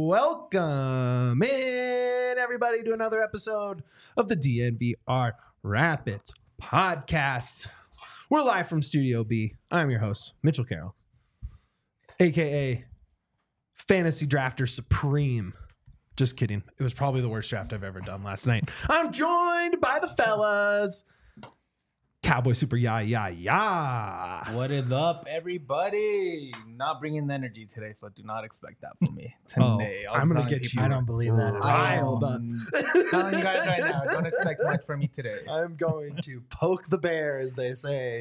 Welcome in, everybody, to another episode of the DNVR Rapids podcast. We're live from Studio B. I'm your host, Mitchell Carroll, a.k.a. Fantasy Drafter Supreme. Just kidding. It was probably the worst draft I've ever done last night. I'm joined by the fellas. Cowboy Super Ya. What is up, everybody? Not bringing the energy today, so do not expect that from me today. I'm going to get you. I don't believe that. Riled up. Telling you guys right now, don't expect much from me today. I'm going to poke the bear, as they say.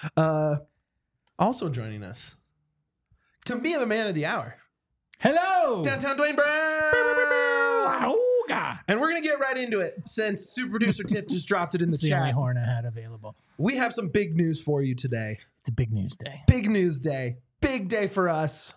Also joining us, to me, the man of the hour, Hello. Downtown Dwayne Brown. And we're going to get right into it since super producer Tiff just dropped it in the It's the only chat. horn I had available. We have some big news for you today. It's a big news day. Big news day. Big day for us.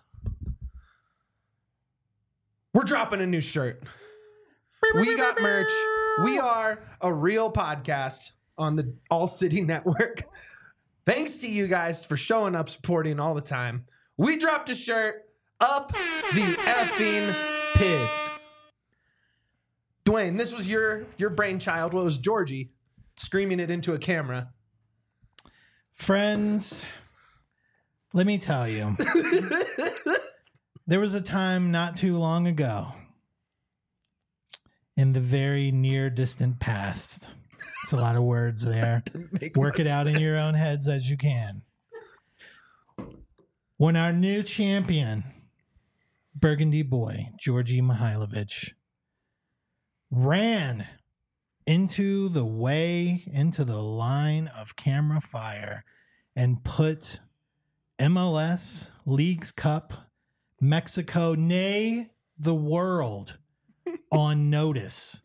We're dropping a new shirt. We got merch. We are a real podcast on the All City Network. Thanks to you guys for showing up, supporting all the time. We dropped a shirt. Up the effing Pids. Dwayne, this was your brainchild. Well, it was Georgie screaming it into a camera. Friends, let me tell you. There was a time not too long ago in the very near distant past. It's a lot of words there. Work it out in your own heads as you can. When our new champion, Burgundy boy, Georgie Mihailovic, ran into the line of camera fire and put MLS, Leagues Cup, Mexico, nay, the world on notice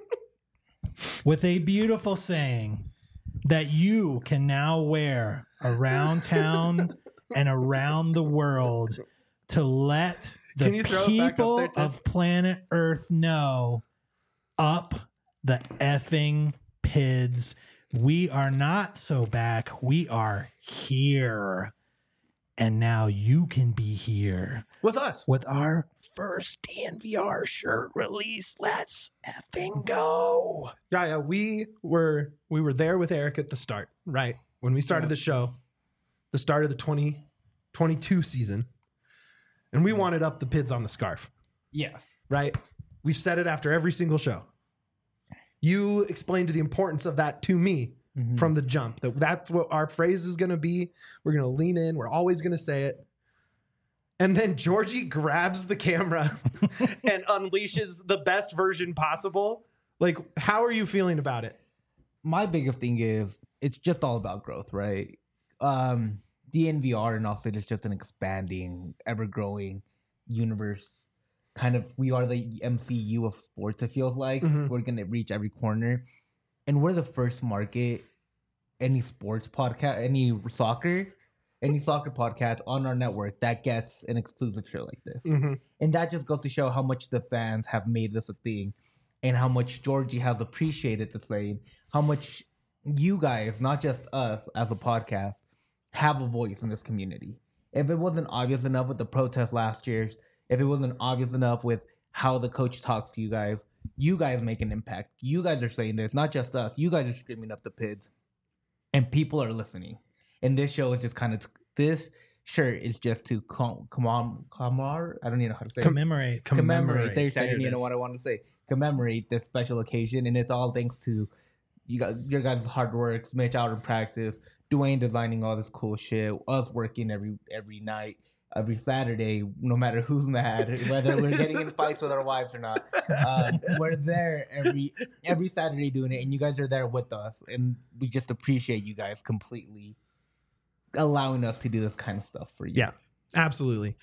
with a beautiful saying that you can now wear around town and around the world to let the people of planet Earth know, up the effing Pids. We are not so back. We are here. And now you can be here With us. with our first DNVR shirt release. Let's effing go. Yeah, we were there with Eric at the start, right? When we started the show, the start of the 2022 season. And we wanted up the Pids on the scarf, Yes. right? We've said it after every single show. You explained the importance of that to me from the jump. That's what our phrase is going to be. We're going to lean in. We're always going to say it. And then Georgie grabs the camera and unleashes the best version possible. Like, how are you feeling about it? My biggest thing is it's just all about growth, right? DNVR and also it's just an expanding, ever-growing universe. Kind of, we are the MCU of sports, it feels like. We're going to reach every corner. And we're the first market, any sports podcast, any soccer podcast on our network that gets an exclusive show like this. And that just goes to show how much the fans have made this a thing and how much Georgie has appreciated the same, how much you guys, not just us as a podcast, have a voice in this community. If it wasn't obvious enough with the protest last year, if it wasn't obvious enough with how the coach talks to you guys make an impact. You guys are saying this, not just us. You guys are screaming up the Pids, and people are listening. And this show is just kind of this shirt is just to I don't even know how to say Commemorate. commemorate. There's I There didn't it even know is. what I wanted to say. Commemorate this special occasion, and it's all thanks to your guys' hard work, Mitch out in practice, Dwayne designing all this cool shit, us working every night, every Saturday, no matter who's mad, whether we're getting in fights with our wives or not. We're there every Saturday doing it, and you guys are there with us, and we just appreciate you guys completely allowing us to do this kind of stuff for you. Yeah, absolutely.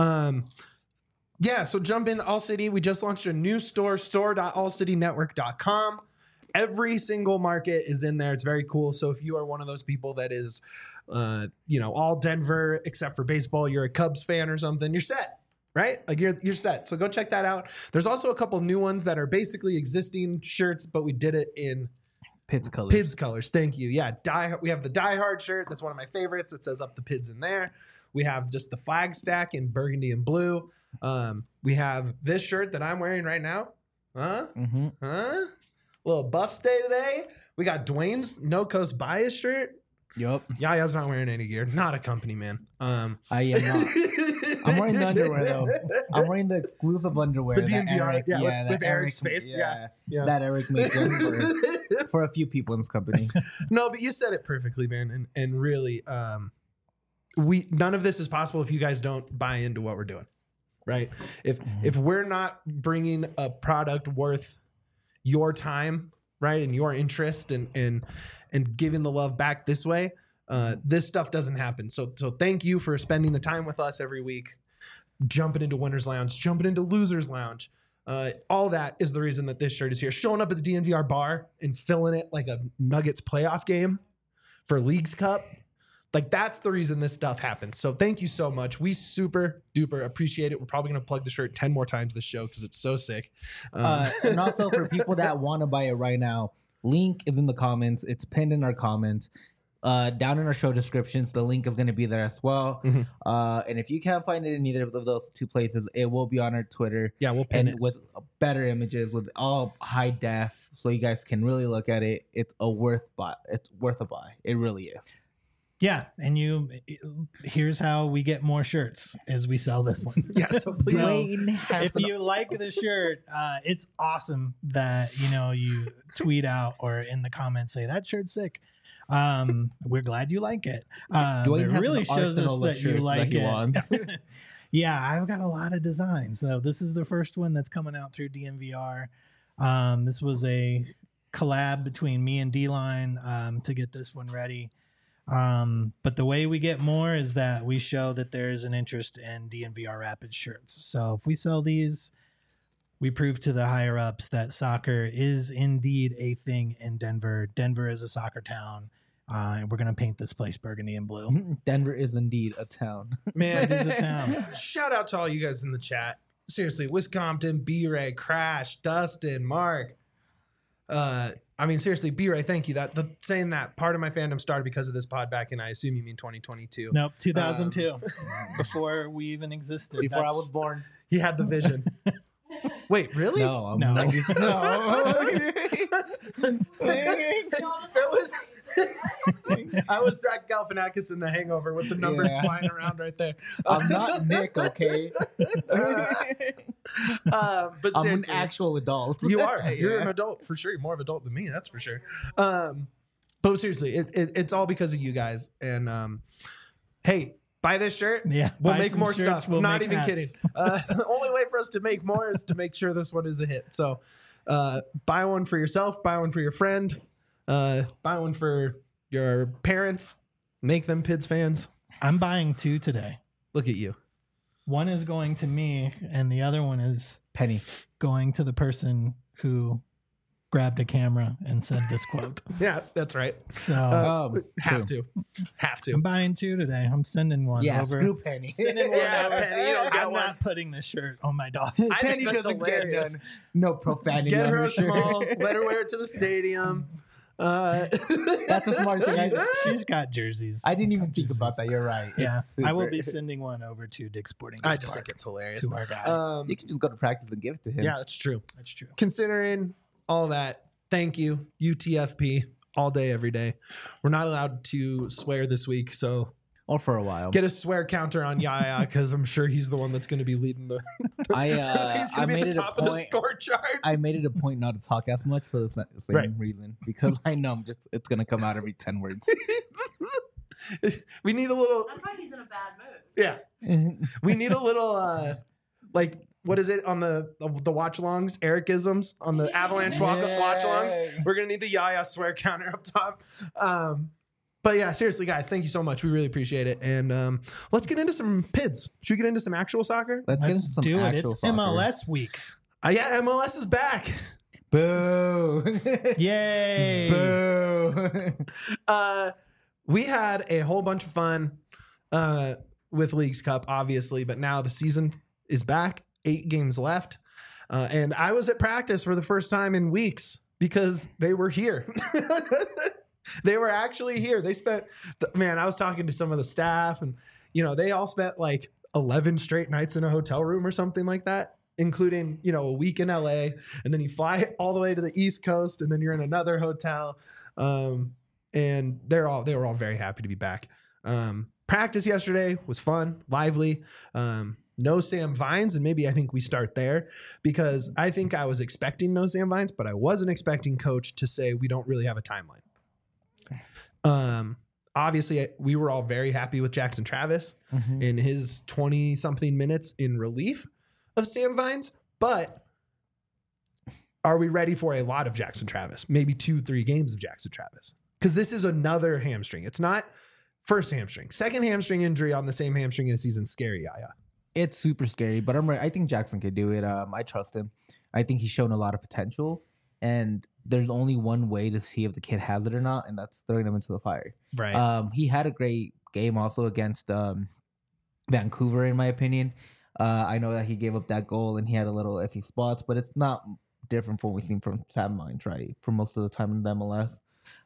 So jump in All City. We just launched a new store.allcitynetwork.com. Every single market is in there. It's very cool. So if you are one of those people that is, all Denver except for baseball, you're a Cubs fan or something, you're set, right? Like you're set. So go check that out. There's also a couple new ones that are basically existing shirts, but we did it in Pids colors. Pids colors. Thank you. Yeah, we have the Die Hard shirt. That's one of my favorites. It says "Up the Pids" in there. We have just the flag stack in burgundy and blue. We have this shirt that I'm wearing right now. Huh? Mm-hmm. Huh? Little Buffs Day today. We got Dwayne's No Coast Bias shirt. Yup. Yaya's not wearing any gear. Not a company man. I am not. I'm wearing the underwear though. I'm wearing the exclusive underwear. The that DNVR, Eric, yeah, that with Eric's face, yeah. That Eric made for a few people in this company. No, but you said it perfectly, man. And really, none of this is possible if you guys don't buy into what we're doing, right? If we're not bringing a product worth your time, right, and your interest and giving the love back this way, this stuff doesn't happen. So thank you for spending the time with us every week, jumping into Winners Lounge, jumping into Losers Lounge. All that is the reason that this shirt is here. Showing up at the DNVR bar and filling it like a Nuggets playoff game for Leagues Cup. Like, that's the reason this stuff happens. So thank you so much. We super duper appreciate it. We're probably going to plug the shirt 10 more times this show because it's so sick. And also for people that want to buy it right now, link is in the comments. It's pinned in our comments. Down in our show descriptions, the link is going to be there as well. Mm-hmm. And if you can't find it in either of those two places, it will be on our Twitter. Yeah, we'll pin and it with better images, with all high def, so you guys can really look at it. It's worth a buy. It really is. Yeah, and here's how we get more shirts as we sell this one. Yeah, so please. If you like the shirt, it's awesome that you tweet out or in the comments say that shirt's sick. We're glad you like it. It really shows us that you like it. Yeah, I've got a lot of designs. So this is the first one that's coming out through DNVR. This was a collab between me and D-Line to get this one ready. But the way we get more is that we show that there's an interest in DNVR Rapids shirts. So if we sell these, we prove to the higher ups that soccer is indeed a thing in Denver. Denver is a soccer town. And we're going to paint this place burgundy and blue. Denver is indeed a town. Man, It is a town. Shout out to all you guys in the chat. Seriously, Wisconsin, B-Ray, Crash, Dustin, Mark. Seriously, B-Ray, thank you. Saying that part of my fandom started because of this pod back in, I assume you mean 2022. Nope, 2002. Before we even existed. Before I was born. He had the vision. Wait, really? No, I'm No. no. That was I was Zach Galifianakis in The Hangover with the numbers flying around right there. I'm not Nick, okay? But I'm an seriously, actual adult. you are. You're Yeah. an adult for sure. You're more of an adult than me, that's for sure. But seriously, it's all because of you guys. And hey, buy this shirt. Yeah, We'll buy make some more shirts, stuff. we'll Not make even hats. kidding. The only way for us to make more is to make sure this one is a hit. So buy one for yourself, buy one for your friend, buy one for your parents, make them Pids fans. I'm buying 2 today. Look at you. One is going to me, and the other one is Penny. going to the person who grabbed a camera and said this quote. Yeah, that's right. So Have true. to. I'm buying 2 today. I'm sending one Yeah, over. screw Penny. Sending one Yeah, over. Penny, you don't get I'm one. not putting this shirt on my dog. I think Penny that's doesn't hilarious. get no profanity Get on her her a small, shirt. let her wear it to the stadium. That's a smart thing. She's got jerseys. I didn't She's even got think about jerseys. that. You're right. Yeah, It's I will super. be sending one over to Dick's Sporting I Goods just Park think it's hilarious. to our guy. You can just go to practice and give it to him. Yeah, that's true. That's true. Considering all that, thank you, UTFP, all day, every day. We're not allowed to swear this week, so Or for a while. get a swear counter on Yaya because I'm sure he's the one that's going to be leading the. he's I going to be made at the it a top of the point. score chart. I made it a point not to talk as much for the same Right. reason, because I know it's gonna come out every 10 words. We need a little. That's why he's in a bad mood. Yeah, we need a little. Like, what is it on the watch alongs? Ericisms on the Avalanche watch alongs. We're gonna need the Yaya swear counter up top. But yeah, seriously, guys, thank you so much. We really appreciate it. And let's get into some PIDs. Should we get into some actual soccer? Let's get into Let's some do it. actual It's soccer. MLS week. Yeah, MLS is back. Boo! Yay! Boo! We had a whole bunch of fun with Leagues Cup, obviously, but now the season is back. 8 games left. And I was at practice for the first time in weeks because they were here. They were actually here. They spent, I was talking to some of the staff, and, they all spent like 11 straight nights in a hotel room or something like that, including, a week in LA. And then you fly all the way to the East Coast, and then you're in another hotel. And they were all very happy to be back. Practice yesterday was fun, lively. No Sam Vines, and maybe I think we start there, because I think I was expecting no Sam Vines, but I wasn't expecting Coach to say we don't really have a timeline. Obviously, we were all very happy with Jackson Travis in his 20-something minutes in relief of Sam Vines, but are we ready for a lot of Jackson Travis? Maybe 2-3 games of Jackson Travis, because this is another hamstring. It's not first hamstring, second hamstring injury on the same hamstring in a season. Scary, Yaya. It's super scary, but I think Jackson could do it. I trust him. I think he's shown a lot of potential, and there's only one way to see if the kid has it or not, and that's throwing him into the fire. Right. He had a great game also against Vancouver, in my opinion. I know that he gave up that goal and he had a little iffy spots, but it's not different from what we've seen from Sam Vines, right? For most of the time in the MLS.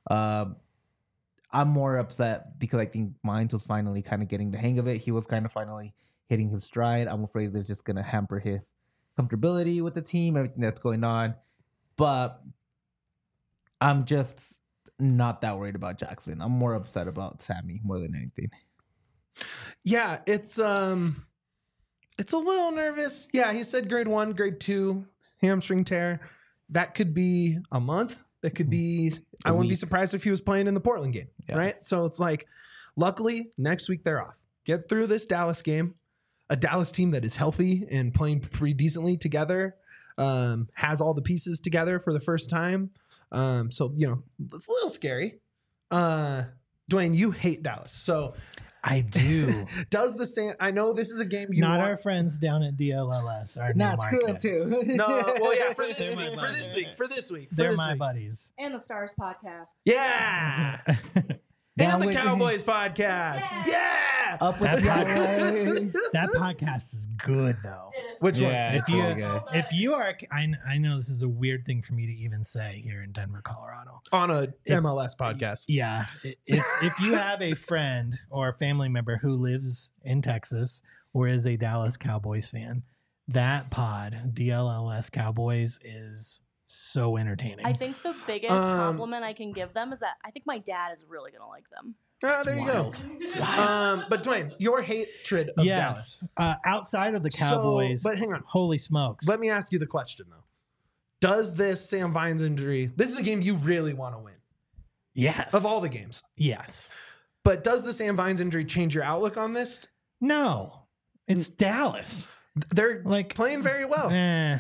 I'm more upset because I think Mines was finally kind of getting the hang of it. He was kind of finally hitting his stride. I'm afraid they're just going to hamper his comfortability with the team, everything that's going on. But I'm just not that worried about Jackson. I'm more upset about Sammy more than anything. Yeah, it's a little nervous. Yeah, he said grade 1, grade 2 hamstring tear. That could be a month. That could be, I wouldn't be surprised if he was playing in the Portland game, right? So it's like, luckily, next week they're off. Get through this Dallas game. A Dallas team that is healthy and playing pretty decently together, has all the pieces together for the first time. So, it's a little scary. Dwayne, you hate Dallas. So I do. I know this is a game you not want. our friends down at DLLS. Our Not new screw market. him too. No, well, yeah, for this They're week, my for this buddies. week, for this week. They're for this my week. buddies. And the Stars podcast. Yeah. And the Cowboys podcast. Yeah. Up with That the podcast, that podcast is good though. It is. Which one? Yeah, If it's you really good. if you are, I know this is a weird thing for me to even say here in Denver, Colorado. On a MLS podcast. Yeah, if you have a friend or a family member who lives in Texas or is a Dallas Cowboys fan, that pod DLLS Cowboys is so entertaining. I think the biggest compliment I can give them is that I think my dad is really going to like them. Ah, there wild. you go. But Dwayne, your hatred of Dallas. Outside of the Cowboys, So, but hang on. holy smokes. Let me ask you the question, though. Does this Sam Vines injury, this is a game you really want to win Yes. of all the games, Yes. but does the Sam Vines injury change your outlook on this? No. It's Dallas. They're Like playing very well.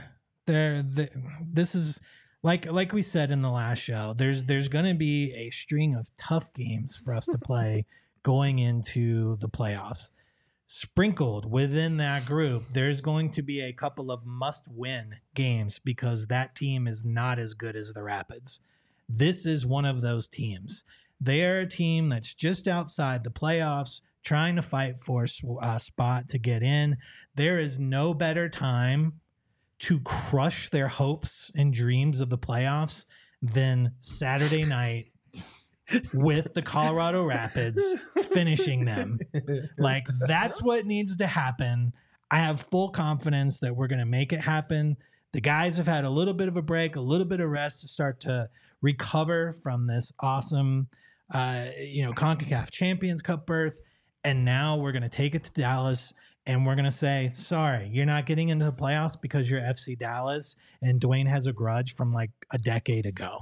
This is like we said in the last show. There's going to be a string of tough games for us to play going into the playoffs. Sprinkled within that group, there's going to be a couple of must-win games because that team is not as good as the Rapids. This is one of those teams. They are a team that's just outside the playoffs, trying to fight for a spot to get in. There is no better time to crush their hopes and dreams of the playoffs than Saturday night with the Colorado Rapids finishing them. Like, that's what needs to happen. I have full confidence that we're going to make it happen. The guys have had a little bit of a break, a little bit of rest to start to recover from this awesome, CONCACAF Champions Cup berth. And now we're going to take it to Dallas and we're going to say, sorry, you're not getting into the playoffs because you're FC Dallas and Dwayne has a grudge from like a decade ago.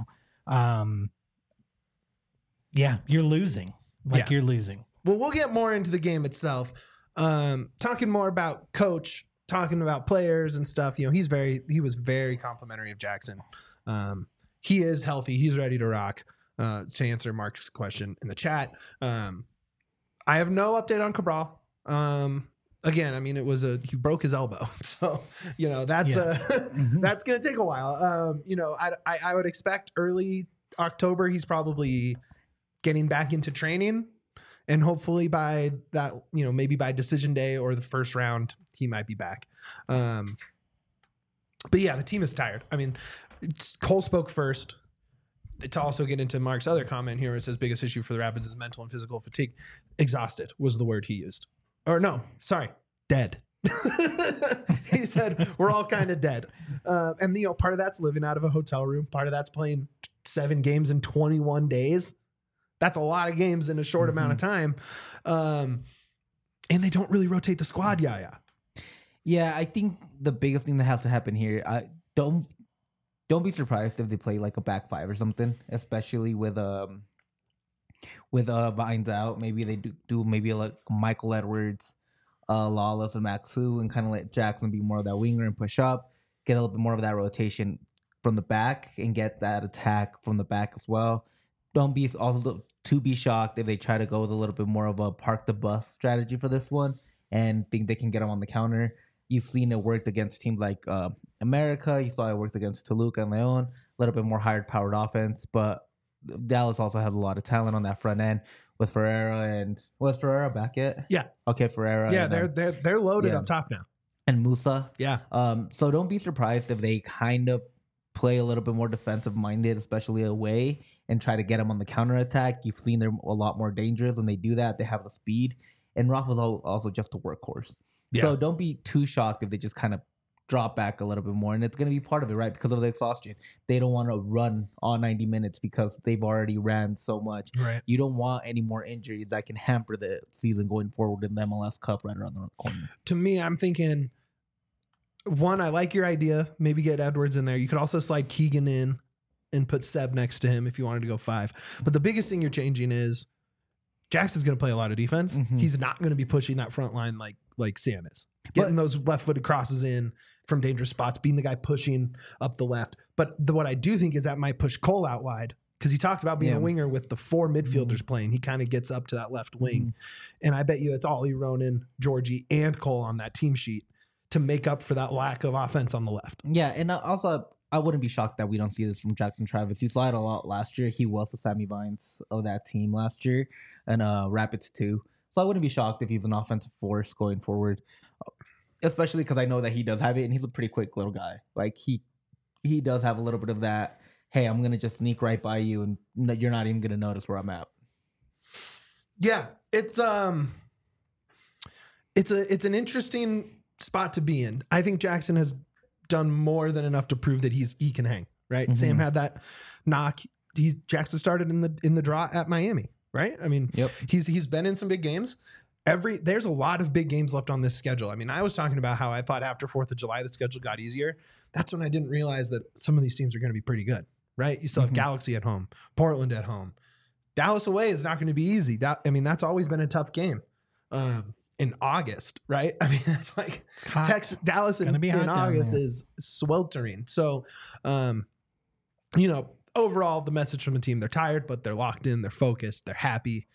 You're losing. You're losing. Well, we'll get more into the game itself. Talking more about coach, talking about players and stuff. He was very complimentary of Jackson. He is healthy. He's ready to rock. To answer Mark's question in the chat. I have no update on Cabral. Again, I mean, he broke his elbow. So, that's that's going to take a while. I would expect early October, he's probably getting back into training, and hopefully by that, maybe by decision day or the first round, he might be back. But yeah, the team is tired. I mean, Cole spoke first. to also get into Mark's other comment here, where it says biggest issue for the Rapids is mental and physical fatigue. Exhausted was the word he used. Or no, sorry, dead. He said we're all kind of dead. And part of that's living out of a hotel room. Part of that's playing 7 games in 21 days. That's a lot of games in a short amount of time. And they don't really rotate the squad, Yeah, I think the biggest thing that has to happen here, don't be surprised if they play like a back 5 or something, especially with Vines out. Maybe they do maybe like Michael Edwards, Lawless, and Maxu, and kind of let Jackson be more of that winger and push up, get a little bit more of that rotation from the back, and get that attack from the back as well. Don't be also to be shocked if they try to go with a little bit more of a park the bus strategy for this one and think they can get them on the counter. You've seen it worked against teams like America. You saw it worked against Toluca and Leon. A little bit more higher powered offense, but Dallas also has a lot of talent on that front end with Ferreira. And was Ferreira back yet? Yeah. Okay, Ferreira. Yeah, they're loaded up top now. And Musa. Yeah. So don't be surprised if they kind of play a little bit more defensive minded, especially away, and try to get them on the counter attack. You've seen they're a lot more dangerous when they do that. They have the speed, and Rafa's also just a workhorse. Yeah. So don't be too shocked if they just kind of drop back a little bit more, and it's going to be part of it, right? Because of the exhaustion. They don't want to run all 90 minutes because they've already ran so much. Right. You don't want any more injuries that can hamper the season going forward in the MLS Cup right around the corner. To me, I'm thinking, one, I like your idea. Maybe get Edwards in there. You could also slide Keegan in and put Seb next to him if you wanted to go 5. But the biggest thing you're changing is Jackson's going to play a lot of defense. Mm-hmm. He's not going to be pushing that front line like Sam is. Getting those left-footed crosses in from dangerous spots, being the guy pushing up the left. But what I do think is that might push Cole out wide, because he talked about being a winger with the 4 midfielders playing. He kind of gets up to that left wing. And I bet you it's Ollie, Ronan, Georgie, and Cole on that team sheet to make up for that lack of offense on the left. Yeah, and also I wouldn't be shocked that we don't see this from Jackson Travis. You saw it a lot last year. He was the Sammy Vines of that team last year, and Rapids too. So I wouldn't be shocked if he's an offensive force going forward, especially because I know that he does have it, and he's a pretty quick little guy. Like he does have a little bit of that. Hey, I'm gonna just sneak right by you, and you're not even gonna notice where I'm at. Yeah, it's an interesting spot to be in. I think Jackson has done more than enough to prove that he can hang. Right, mm-hmm. Sam had that knock. Jackson started in the draw at Miami. Right, I mean, he's been in some big games. There's a lot of big games left on this schedule. I mean, I was talking about how I thought after 4th of July the schedule got easier. That's when I didn't realize that some of these teams are going to be pretty good. Right, you still have Galaxy at home, Portland at home, Dallas away is not going to be easy. That's always been a tough game. In August, right? I mean, it's like Dallas in August is sweltering. So, overall, the message from the team, they're tired, but they're locked in, they're focused, they're happy.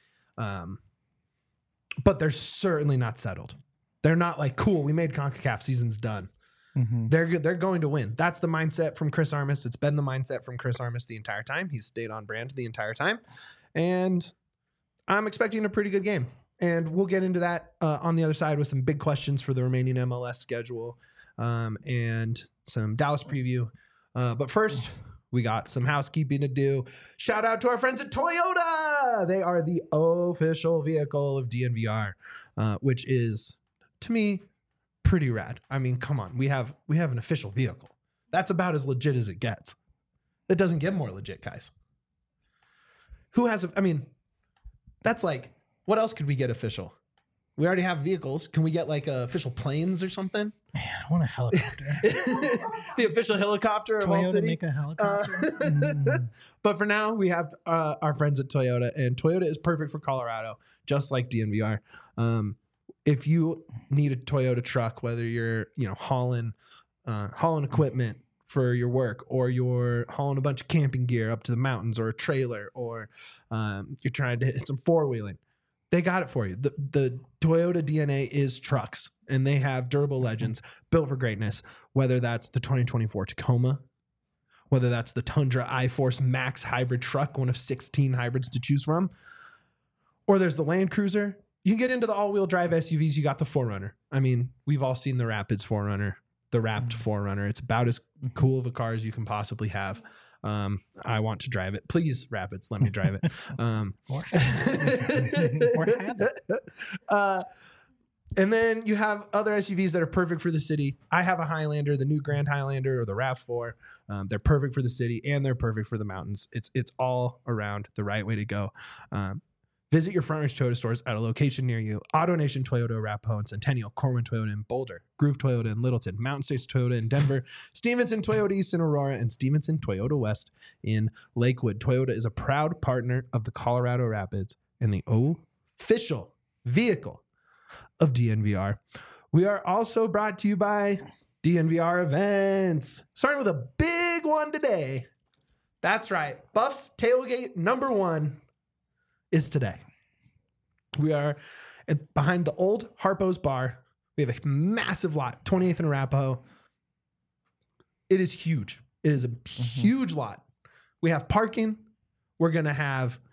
But they're certainly not settled. They're not like, cool, we made CONCACAF, season's done. Mm-hmm. They're going to win. That's the mindset from Chris Armas. It's been the mindset from Chris Armas the entire time. He's stayed on brand the entire time. And I'm expecting a pretty good game. And we'll get into that on the other side with some big questions for the remaining MLS schedule and some Dallas preview. But first, we got some housekeeping to do. Shout out to our friends at Toyota. They are the official vehicle of DNVR, which is, to me, pretty rad. I mean, come on. We have an official vehicle. That's about as legit as it gets. It doesn't get more legit, guys. Who has that's like, what else could we get official? We already have vehicles. Can we get like official planes or something? Man, I want a helicopter. The official helicopter of all city. Make a helicopter. But for now, we have our friends at Toyota, and Toyota is perfect for Colorado, just like DNVR. If you need a Toyota truck, whether you're hauling equipment for your work, or you're hauling a bunch of camping gear up to the mountains, or a trailer, or you're trying to hit some 4-wheeling, they got it for you. The Toyota DNA is trucks, and they have durable legends built for greatness, whether that's the 2024 Tacoma, whether that's the Tundra iForce Max hybrid truck, one of 16 hybrids to choose from, or there's the Land Cruiser. You can get into the all-wheel drive SUVs. You got the 4Runner. I mean, we've all seen the Rapids 4Runner, the Wrapped 4Runner. It's about as cool of a car as you can possibly have. I want to drive it. Please, Rapids, let me drive it. Or have it. And then you have other SUVs that are perfect for the city. I have a Highlander, the new Grand Highlander or the RAV4. They're perfect for the city and they're perfect for the mountains. It's all around the right way to go. Visit your Frontridge Toyota stores at a location near you. AutoNation Toyota, Arapahoe and Centennial, Corwin Toyota in Boulder, Groove Toyota in Littleton, Mountain States Toyota in Denver, Stevenson Toyota East in Aurora, and Stevenson Toyota West in Lakewood. Toyota is a proud partner of the Colorado Rapids and the official vehicle of DNVR. We are also brought to you by DNVR Events, starting with a big one today. That's right. Buff's Tailgate #1 is today. We are behind the old Harpo's Bar. We have a massive lot, 28th and Arapahoe. It is huge. It is a huge lot. We have parking. We're gonna have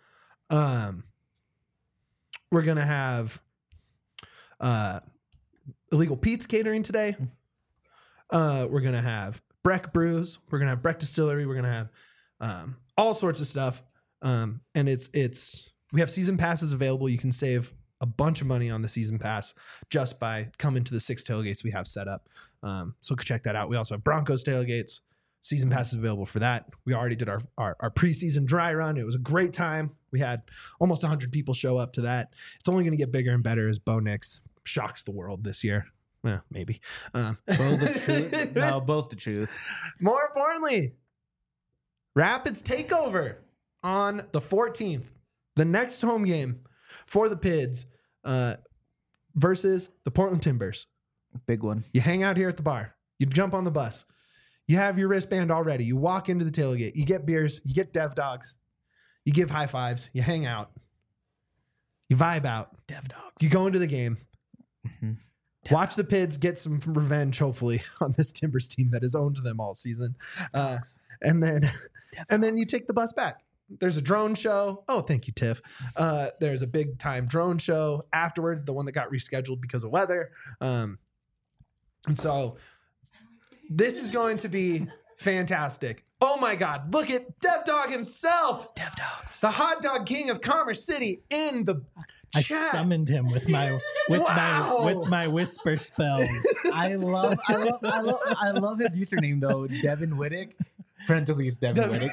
Illegal Pete's catering today. We're gonna have Breck Brews. We're gonna have Breck Distillery. We're gonna have all sorts of stuff. And we have season passes available. You can save a bunch of money on the season pass just by coming to the 6 tailgates we have set up. So check that out. We also have Broncos tailgates. Season passes available for that. We already did our preseason dry run. It was a great time. We had almost 100 people show up to that. It's only going to get bigger and better as Bo Nix shocks the world this year. Well, maybe. Both the truth. No, both the truth. More importantly, Rapids takeover on the 14th. The next home game for the Pids versus the Portland Timbers. Big one. You hang out here at the bar. You jump on the bus. You have your wristband already. You walk into the tailgate. You get beers. You get Dev Dogs. You give high fives. You hang out. You vibe out. Dev Dogs. You go into the game. Watch the Pids get some revenge, hopefully, on this Timbers team that has owned them all season. And then you take the bus back. There's a drone show. Oh, thank you, Tiff. There's a big time drone show afterwards, the one that got rescheduled because of weather. And so this is going to be fantastic. Oh my God, look at Dev Dog himself. Dev Dogs. The hot dog king of Commerce City in the chat. I summoned him with my whisper spells. I love his username though, Devin Whittick. Parentheses Devin Whittick.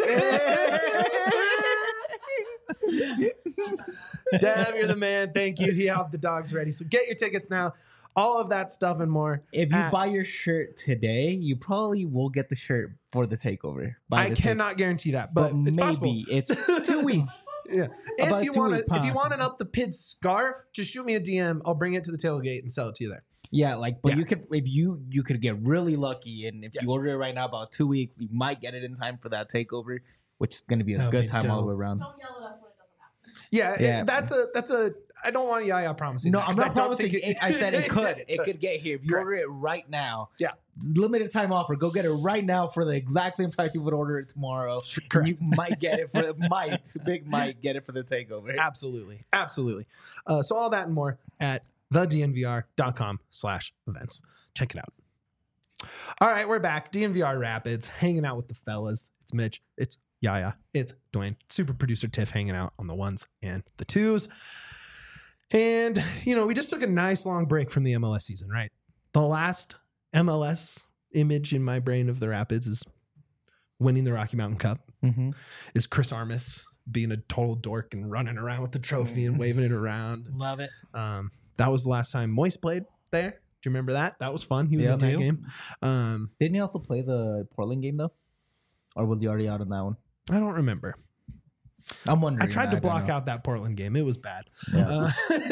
Dev, you're the man. Thank you. He have the dogs ready. So get your tickets now. All of that stuff and more. If you buy your shirt today, you probably will get the shirt for the takeover. I cannot guarantee that, but it's maybe possible. It's 2 weeks. Yeah. About If you want an Up the Pids scarf, just shoot me a DM. I'll bring it to the tailgate and sell it to you there. Yeah, you could you could get really lucky, and if you order it right now, about 2 weeks, you might get it in time for that takeover, which is going to be a good time all the way around. Don't yell at us when it doesn't happen. Yeah. That's a. I don't want Yaya promising. No, that, I'm not promising. I said it could. It could get here if you Correct. order it right now. Yeah. Limited time offer. Go get it right now for the exact same price you would order it tomorrow. Correct. You might get it for might get it for the takeover. Absolutely. So all that and more at thednvr.com/events. Check it out. All right, we're back. DNVR Rapids, hanging out with the fellas. It's Mitch. It's Yaya. It's Dwayne. Super producer Tiff hanging out on the ones and the twos. And, we just took a nice long break from the MLS season, right? The last MLS image in my brain of the Rapids is winning the Rocky Mountain Cup. Mm-hmm. Is Chris Armas being a total dork and running around with the trophy and waving it around. Love it. That was the last time Moist played there. Do you remember that? That was fun. He was in that game. Didn't he also play the Portland game though? Or was he already out on that one? I don't remember. I'm wondering. I tried to block out that Portland game. It was bad. Yeah.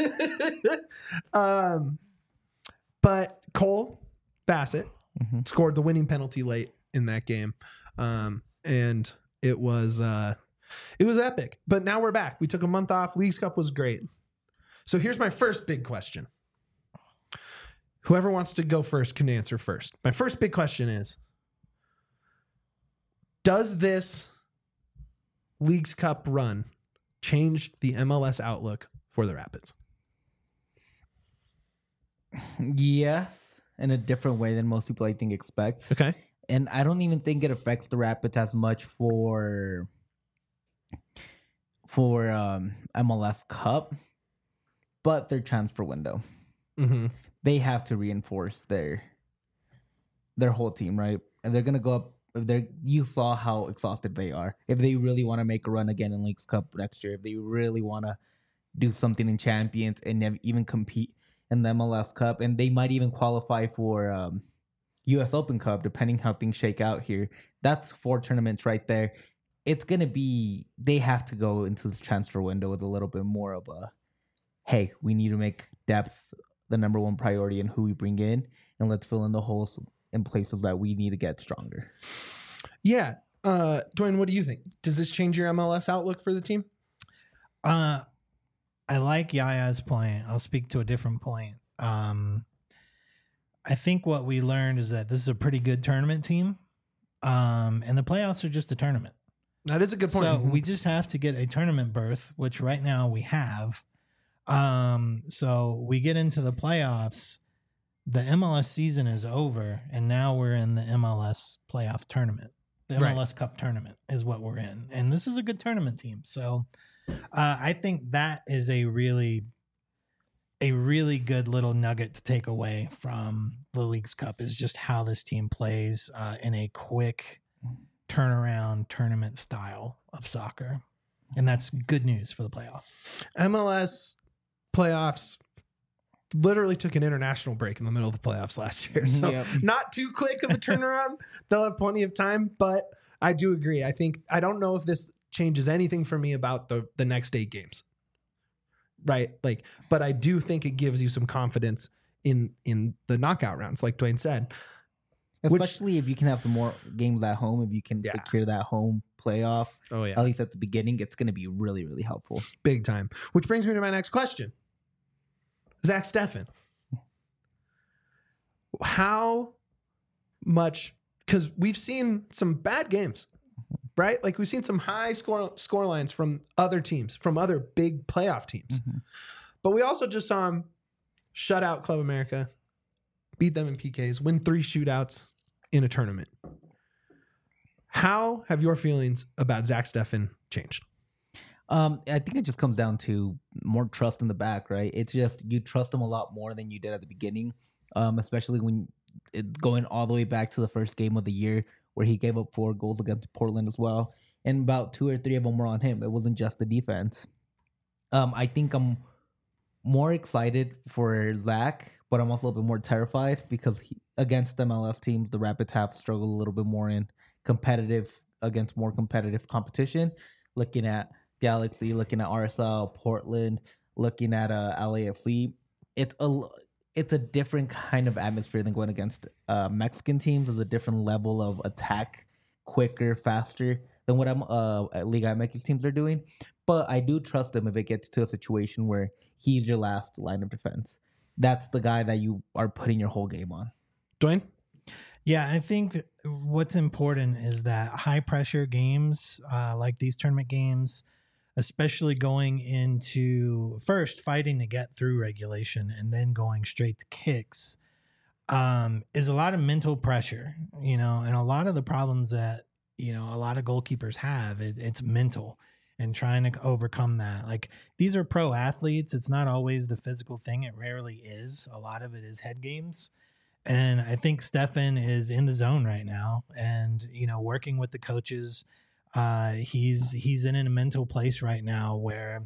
But Cole Bassett scored the winning penalty late in that game. And it was epic. But now we're back. We took a month off. Leagues Cup was great. So here's my first big question. Whoever wants to go first can answer first. My first big question is, does this Leagues Cup run change the MLS outlook for the Rapids? Yes, in a different way than most people I think expect. Okay. And I don't even think it affects the Rapids as much for MLS Cup, but their transfer window. Mm-hmm. They have to reinforce their whole team, right? And they're gonna go up. You saw how exhausted they are. If they really want to make a run again in Leagues Cup next year, if they really want to do something in Champions and even compete in the MLS Cup, and they might even qualify for U.S. Open Cup, depending how things shake out here. That's 4 tournaments right there. It's gonna be. They have to go into this transfer window with a little bit more of a, hey, we need to make depth the number one priority in who we bring in, and let's fill in the holes in places that we need to get stronger. Yeah. Dwayne, what do you think? Does this change your MLS outlook for the team? I like Yaya's point. I'll speak to a different point. I think what we learned is that this is a pretty good tournament team. And the playoffs are just a tournament. That is a good point. So we just have to get a tournament berth, which right now we have. So we get into the playoffs. The MLS season is over, and now we're in the MLS playoff tournament. The MLS Cup tournament is what we're in. And this is a good tournament team. So I think that is a really good little nugget to take away from the Leagues Cup is just how this team plays in a quick turnaround tournament style of soccer. And that's good news for the playoffs. MLS playoffs literally took an international break in the middle of the playoffs last year. So not too quick of a turnaround. They'll have plenty of time, but I do agree. I don't know if this changes anything for me about the next 8 games. Right? But I do think it gives you some confidence in the knockout rounds, like Dwayne said. Especially if you can have some more games at home, if you can secure that home playoff, at least at the beginning, it's going to be really, really helpful. Big time. Which brings me to my next question. Zach Steffen. How much, because we've seen some bad games, right? Like we've seen some high score lines from other teams, from other big playoff teams. Mm-hmm. But we also just saw him shut out Club America, beat them in PKs, win 3 shootouts in a tournament. How have your feelings about Zach Steffen changed? I think it just comes down to more trust in the back, right? It's just you trust him a lot more than you did at the beginning, especially when going all the way back to the first game of the year where he gave up 4 goals against Portland as well. And about 2 or 3 of them were on him. It wasn't just the defense. I think I'm more excited for Zach, but I'm also a little bit more terrified because against MLS teams, the Rapids have struggled a little bit more in against more competitive competition. Looking at Galaxy, looking at RSL, Portland, looking at LAFC, it's a different kind of atmosphere than going against Mexican teams. It's a different level of attack, quicker, faster than what Liga MX teams are doing. But I do trust him if it gets to a situation where he's your last line of defense. That's the guy that you are putting your whole game on. Dwayne? Yeah, I think what's important is that high pressure games like these tournament games, especially going into first fighting to get through regulation and then going straight to kicks, is a lot of mental pressure, and a lot of the problems that, a lot of goalkeepers have, it's mental and trying to overcome that. Like, these are pro athletes. It's not always the physical thing. It rarely is. A lot of it is head games. And I think Steffen is in the zone right now and, working with the coaches. He's in a mental place right now where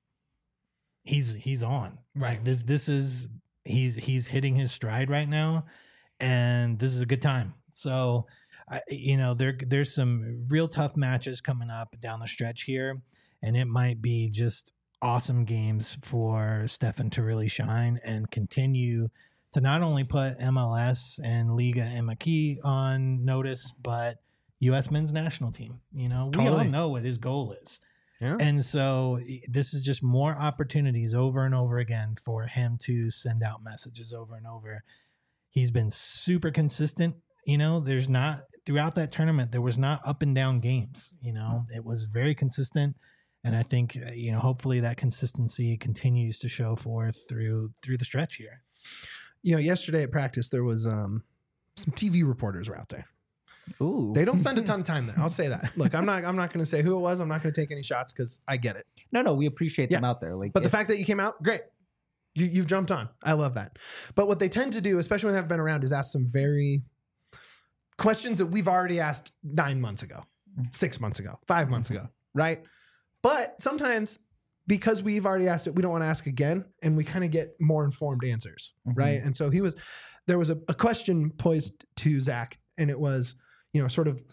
he's on. Right. Like this is he's hitting his stride right now, and this is a good time. So, there's some real tough matches coming up down the stretch here, and it might be just awesome games for Steffen to really shine and continue to not only put MLS and Liga MX on notice, but U.S. men's national team. We all know what his goal is. Yeah. And so this is just more opportunities over and over again for him to send out messages over and over. He's been super consistent. There's not, throughout that tournament, there was not up and down games. It was very consistent. And I think, hopefully that consistency continues to show forth through the stretch here. Yesterday at practice, there was some TV reporters were out there. Ooh. They don't spend a ton of time there. I'll say that. Look, I'm not going to say who it was. I'm not going to take any shots because I get it. No, we appreciate them out there. Like, but the fact that you came out, great. You've jumped on. I love that. But what they tend to do, especially when they've been around, is ask some very questions that we've already asked 9 months ago, 6 months ago, 5 months ago, right? But sometimes because we've already asked it, we don't want to ask again, and we kind of get more informed answers, right? And so there was a question posed to Zach, and it was, sort of,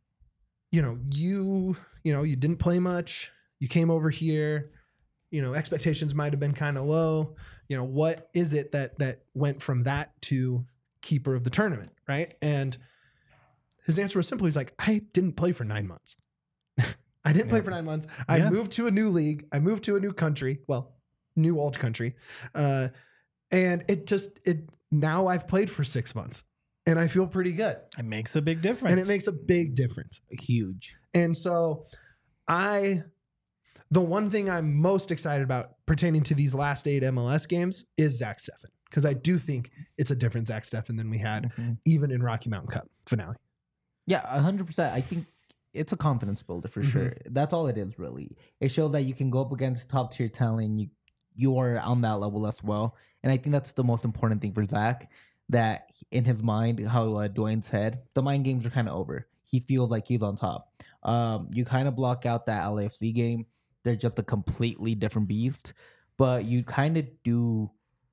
you didn't play much. You came over here, expectations might have been kind of low. What is it that went from that to keeper of the tournament, right? And his answer was simple. He's like, I didn't play for 9 months. I didn't play for 9 months. I moved to a new league. I moved to a new country. Well, new old country. And now I've played for 6 months and I feel pretty good. It makes a big difference. And it makes a big difference. Huge. And so the one thing I'm most excited about pertaining to these last 8 MLS games is Zach Steffen. Because I do think it's a different Zach Steffen than we had even in Rocky Mountain Cup finale. Yeah, 100%. I think it's a confidence builder for sure. That's all it is, really. It shows that you can go up against top tier talent and you are on that level as well. And I think that's the most important thing for Zach, that in his mind, how Dwayne said, the mind games are kind of over. He feels like he's on top. You kind of block out that LAFC game. They're just a completely different beast. But you kind of do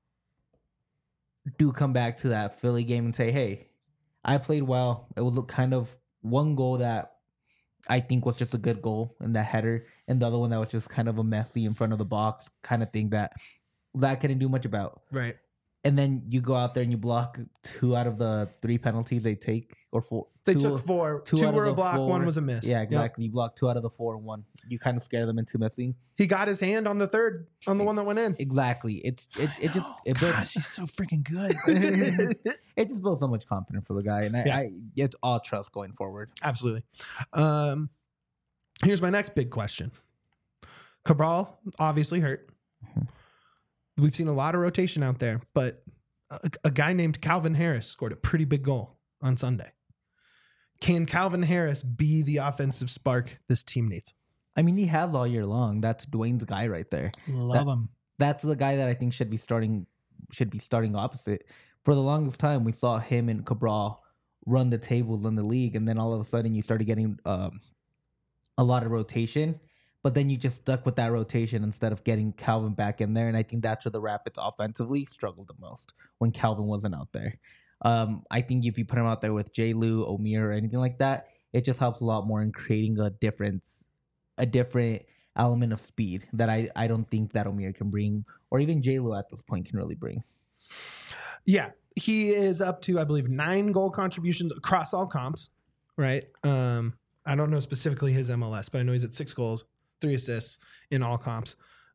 come back to that Philly game and say, hey, I played well. It was kind of one goal that I think was just a good goal in that header, and the other one that was just kind of a messy in front of the box kind of thing that Zach couldn't do much about. Right. And then you go out there and you block 2 out of the 3 penalties they take, or 4. They took 4. 2 were a block, 1 was a miss. Yeah, exactly. Yep. You block 2 out of the 4 and 1. You kind of scare them into missing. He got his hand on the third, on the one that went in. Exactly. It Gosh, he's so freaking good. It just builds so much confidence for the guy, and it's all trust going forward. Absolutely. Here's my next big question. Cabral obviously hurt. We've seen a lot of rotation out there, but a guy named Calvin Harris scored a pretty big goal on Sunday. Can Calvin Harris be the offensive spark this team needs? I mean, he has all year long. That's Dwayne's guy right there. Love him. That's the guy that I think should be starting opposite. For the longest time, we saw him and Cabral run the tables in the league, and then all of a sudden you started getting a lot of rotation. But then you just stuck with that rotation instead of getting Calvin back in there. And I think that's where the Rapids offensively struggled the most, when Calvin wasn't out there. I think if you put him out there with J. Lou, Omir, or anything like that, it just helps a lot more in creating a different element of speed that I don't think that Omir can bring, or even J. Lou at this point can really bring. Yeah, he is up to, I believe, 9 goal contributions across all comps, right? I don't know specifically his MLS, but I know he's at 6 goals. 3 assists in all comps.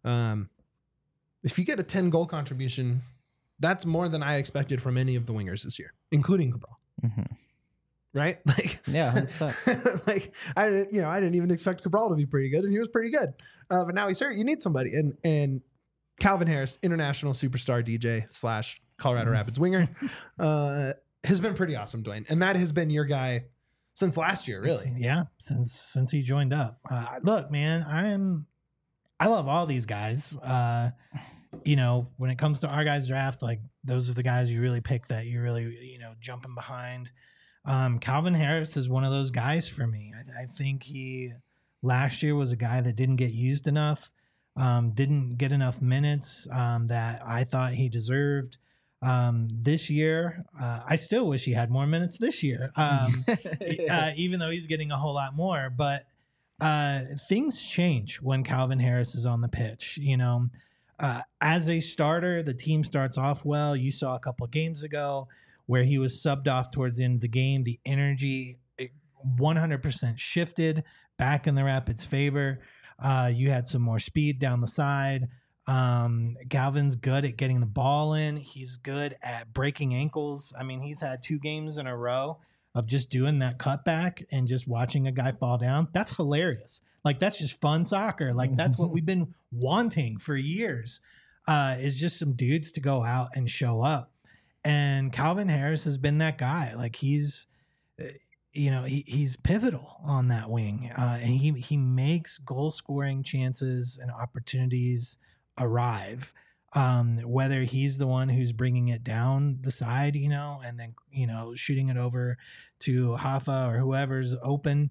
If you get a 10 goal contribution, that's more than I expected from any of the wingers this year, including Cabral. Right? Like, yeah, 100%. Like I didn't even expect Cabral to be pretty good, and he was pretty good. But now he's hurt. You need somebody, and Calvin Harris, international superstar DJ / Colorado Rapids winger, has been pretty awesome, Dwayne, and that has been your guy since last year, really. Yeah, since he joined up. Look, man, I love all these guys. When it comes to our guys' draft, like, those are the guys you really pick that you really, jumping behind. Calvin Harris is one of those guys for me. I think he last year was a guy that didn't get used enough, didn't get enough minutes that I thought he deserved. This year, I still wish he had more minutes this year, even though he's getting a whole lot more. But things change when Calvin Harris is on the pitch. As a starter, the team starts off well. You saw a couple of games ago where he was subbed off towards the end of the game. The energy 100% shifted back in the Rapids' favor. You had some more speed down the side. Calvin's good at getting the ball in. He's good at breaking ankles. I mean, he's had 2 games in a row of just doing that cutback and just watching a guy fall down. That's hilarious. Like, that's just fun soccer. Like, that's what we've been wanting for years, is just some dudes to go out and show up. And Calvin Harris has been that guy. Like, he's he's pivotal on that wing. And he makes goal scoring chances and opportunities arrive. Whether he's the one who's bringing it down the side, and then, shooting it over to Hoffa or whoever's open,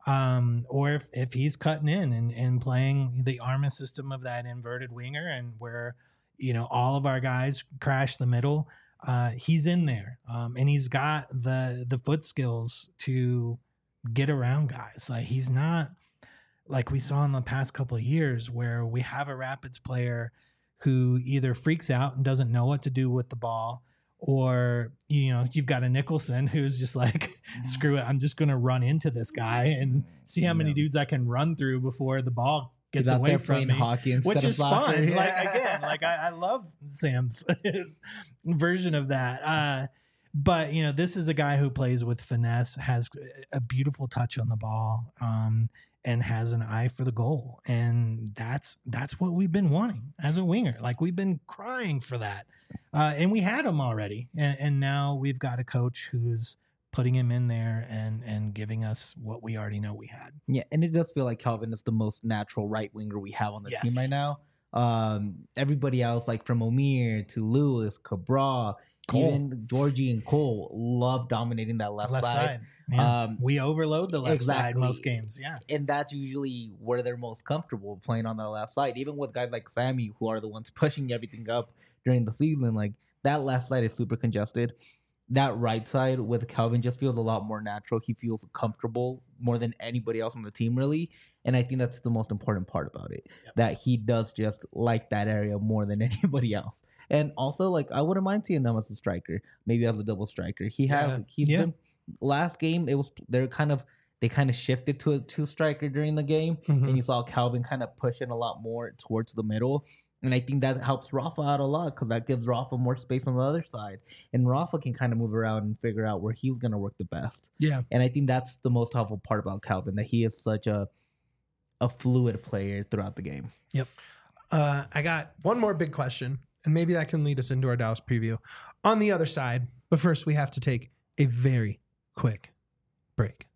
or if he's cutting in and playing the Arma system of that inverted winger, and where, all of our guys crash the middle, he's in there. And he's got the foot skills to get around guys. Like, he's not like we saw in the past couple of years where we have a Rapids player who either freaks out and doesn't know what to do with the ball, or, you've got a Nicholson who's just like, screw it, I'm just going to run into this guy and see how many dudes I can run through before the ball gets away from me, hockey which is fun. Yeah. Like, again, I love Sam's version of that. But, this is a guy who plays with finesse, has a beautiful touch on the ball, and has an eye for the goal. And that's what we've been wanting as a winger. Like, we've been crying for that. And we had him already. And now we've got a coach who's putting him in there and giving us what we already know we had. Yeah, and it does feel like Calvin is the most natural right winger we have on the team right now. Everybody else, like from Omir to Lewis, Cabral, Cole. Even Georgie and Cole, love dominating that left side. Yeah. We overload the left side most games. Yeah. And that's usually where they're most comfortable, playing on the left side. Even with guys like Sammy, who are the ones pushing everything up during the season, like, that left side is super congested. That right side with Calvin just feels a lot more natural. He feels comfortable more than anybody else on the team, really. And I think that's the most important part about it, that he does just like that area more than anybody else. And also, like, I wouldn't mind seeing him as a striker, maybe as a double striker. He's been, last game, they kind of shifted to a two striker during the game, and you saw Calvin kind of pushing a lot more towards the middle. And I think that helps Rafa out a lot, because that gives Rafa more space on the other side. And Rafa can kind of move around and figure out where he's going to work the best. Yeah. And I think that's the most helpful part about Calvin, that he is such a fluid player throughout the game. Yep. I got one more big question, and maybe that can lead us into our Dallas preview on the other side. But first, we have to take a very quick break.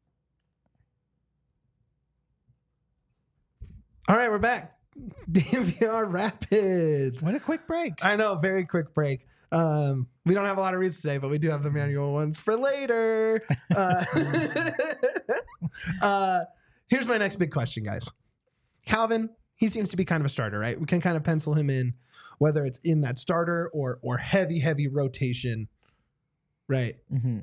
All right, we're back. DNVR Rapids. What a quick break. I know, very quick break. We don't have a lot of reads today, but we do have the manual ones for later. Here's my next big question, guys. Calvin, he seems to be kind of a starter, right? We can kind of pencil him in, whether it's in that starter or heavy rotation, right? Mm-hmm.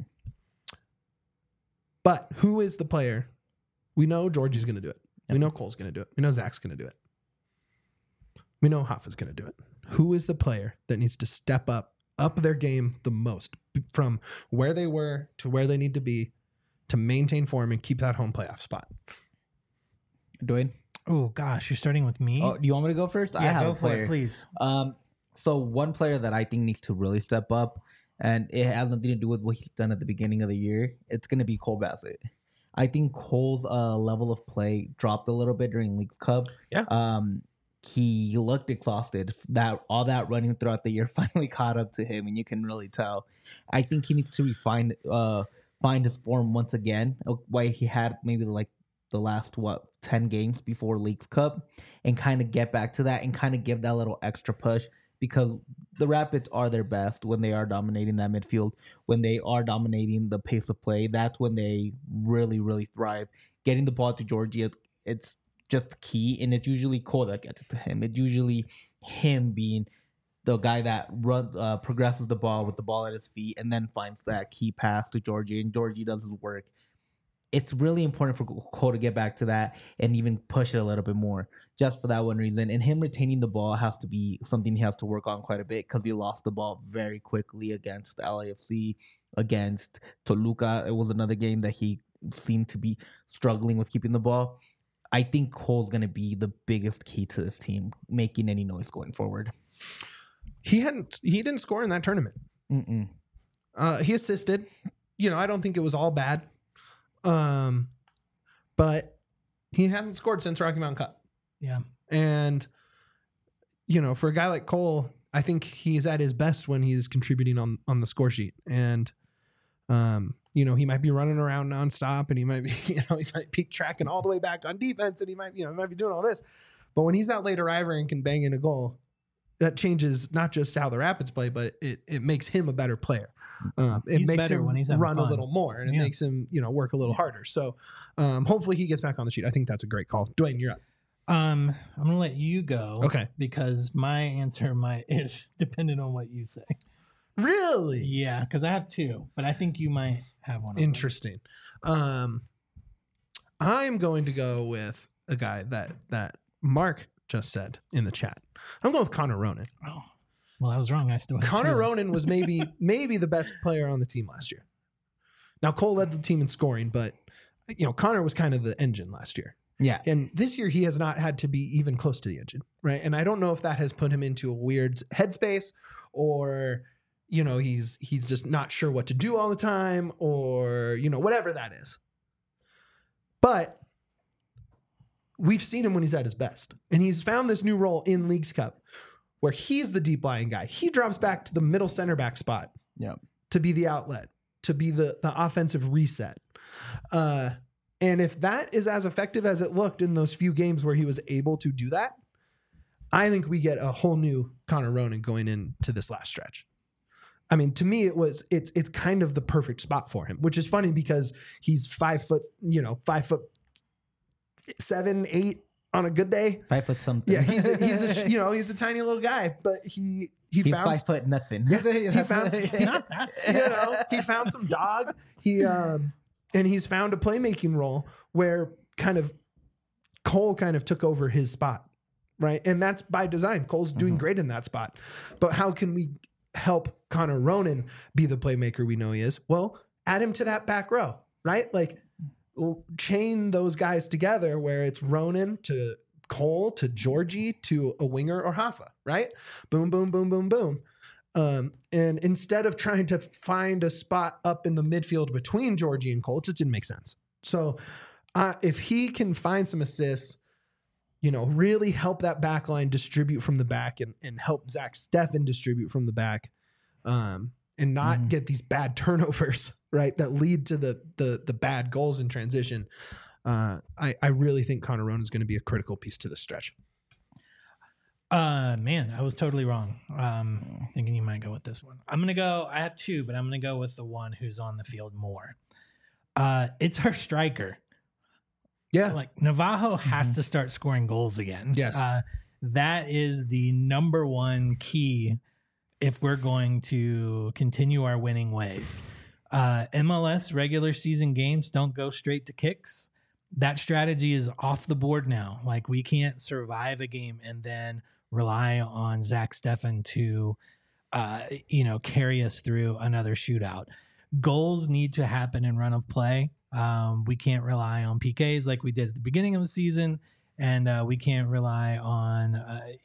But who is the player? We know Georgie's going to do it. Yep. We know Cole's going to do it. We know Zach's going to do it. We know Hoffa's going to do it. Who is the player that needs to step up their game the most from where they were to where they need to be to maintain form and keep that home playoff spot? Dwayne? Oh, gosh. You're starting with me? Oh, do you want me to go first? Yeah, I have go a player. for it, please. So one player that I think needs to really step up, and it has nothing to do with what he's done at the beginning of the year, it's going to be Cole Bassett. I think Cole's level of play dropped a little bit during Leagues Cup. Yeah. He looked exhausted. That all that running throughout the year finally caught up to him, and you can really tell. I think he needs to find his form once again, why he had maybe like the last 10 games before Leagues Cup, and kind of get back to that and kind of give that little extra push, because the Rapids are their best when they are dominating that midfield, when they are dominating the pace of play. That's when they really thrive. Getting the ball to Georgie, it's just key, and it's usually Cole that gets it to him. It's usually him being the guy that progresses the ball with the ball at his feet and then finds that key pass to Georgie, and Georgie does his work. It's really important for Cole to get back to that and even push it a little bit more, just for that one reason. And him retaining the ball has to be something he has to work on quite a bit, because he lost the ball very quickly against LAFC, against Toluca. It was another game that he seemed to be struggling with keeping the ball. I think Cole's going to be the biggest key to this team making any noise going forward. He didn't score in that tournament. He assisted. I don't think it was all bad. But he hasn't scored since Rocky Mountain Cup. Yeah. And, for a guy like Cole, I think he's at his best when he's contributing on the score sheet. And, You know, he might be running around nonstop, and he might be, he might be tracking all the way back on defense, and he might be doing all this. But when he's that late arriver and can bang in a goal, that changes not just how the Rapids play, but it makes him a better player. It makes him when he's run a little more, and it makes him, work a little harder. So hopefully he gets back on the sheet. I think that's a great call. Dwayne, you're up. I'm going to let you go. Okay. Because my answer is dependent on what you say. Really? Yeah, because I have two, but I think you might have one. Interesting. I'm going to go with a guy that Mark just said in the chat. I'm going with Connor Ronan. Oh, well, I was wrong. I still have Connor Ronan was maybe the best player on the team last year. Now Cole led the team in scoring, but Connor was kind of the engine last year. Yeah. And this year he has not had to be even close to the engine, right? And I don't know if that has put him into a weird headspace, or he's just not sure what to do all the time, or whatever that is. But we've seen him when he's at his best, and he's found this new role in Leagues Cup where he's the deep lying guy. He drops back to the middle center back spot to be the outlet, to be the offensive reset. And if that is as effective as it looked in those few games where he was able to do that, I think we get a whole new Connor Ronan going into this last stretch. I mean, to me, it's kind of the perfect spot for him, which is funny because he's 5'7", 8 on a good day. 5 foot something. Yeah, he's a tiny little guy, but he's found 5 foot nothing. He found He's not that. he found some dog. And he's found a playmaking role where Cole kind of took over his spot, right? And that's by design. Cole's doing great in that spot. But how can we help Connor Ronan be the playmaker we know he is? Well, add him to that back row, right? Like chain those guys together where it's Ronan to Cole to Georgie to a winger or Hoffa, right? Boom, boom, boom, boom, boom. And instead of trying to find a spot up in the midfield between Georgie and Cole, it just didn't make sense. So if he can find some assists, really help that back line distribute from the back and help Zach Steffen distribute from the back, and not get these bad turnovers, right, that lead to the bad goals in transition, I really think Connor Ronan is going to be a critical piece to the stretch. Man, I was totally wrong. Thinking you might go with this one. I have two, but I'm going to go with the one who's on the field more. It's our striker. Yeah. Like Navajo has to start scoring goals again. Yes. That is the number one key if we're going to continue our winning ways. MLS regular season games don't go straight to kicks. That strategy is off the board now. Like, we can't survive a game and then rely on Zach Steffen to, carry us through another shootout. Goals need to happen in run of play. We can't rely on PKs like we did at the beginning of the season, and we can't rely on,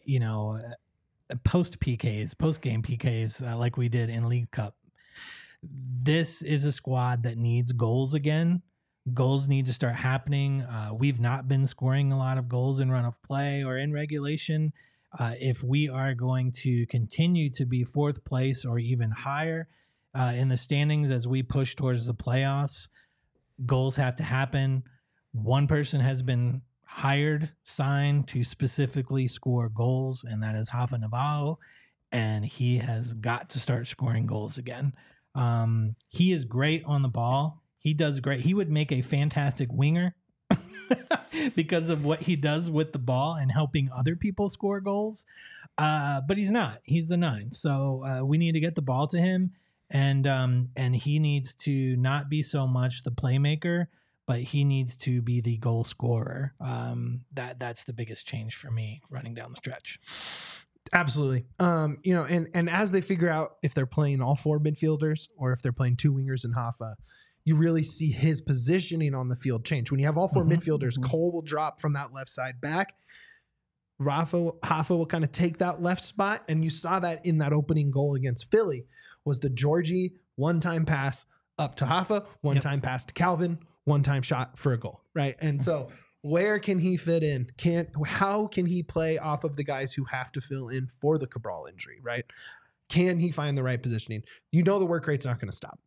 post-game PKs like we did in League Cup. This is a squad that needs goals again. Goals need to start happening. We've not been scoring a lot of goals in run of play or in regulation. If we are going to continue to be fourth place or even higher in the standings as we push towards the playoffs, goals have to happen. One person has been signed to specifically score goals, and that is Hoffa Navajo, and he has got to start scoring goals again. He is great on the ball. He does great. He would make a fantastic winger because of what he does with the ball and helping other people score goals. But he's not. He's the 9. So we need to get the ball to him, and he needs to not be so much the playmaker, but he needs to be the goal scorer. That's the biggest change for me running down the stretch. Absolutely. And as they figure out if they're playing all 4 midfielders or if they're playing 2 wingers and Hoffa, you really see his positioning on the field change. When you have all 4 midfielders, Cole will drop from that left side back. Hoffa will kind of take that left spot. And you saw that in that opening goal against Philly was the Georgie one-time pass up to Hoffa, one-time pass to Calvin, one-time shot for a goal, right? And so where can he fit in? How can he play off of the guys who have to fill in for the Cabral injury, right? Can he find the right positioning? The work rate's not going to stop.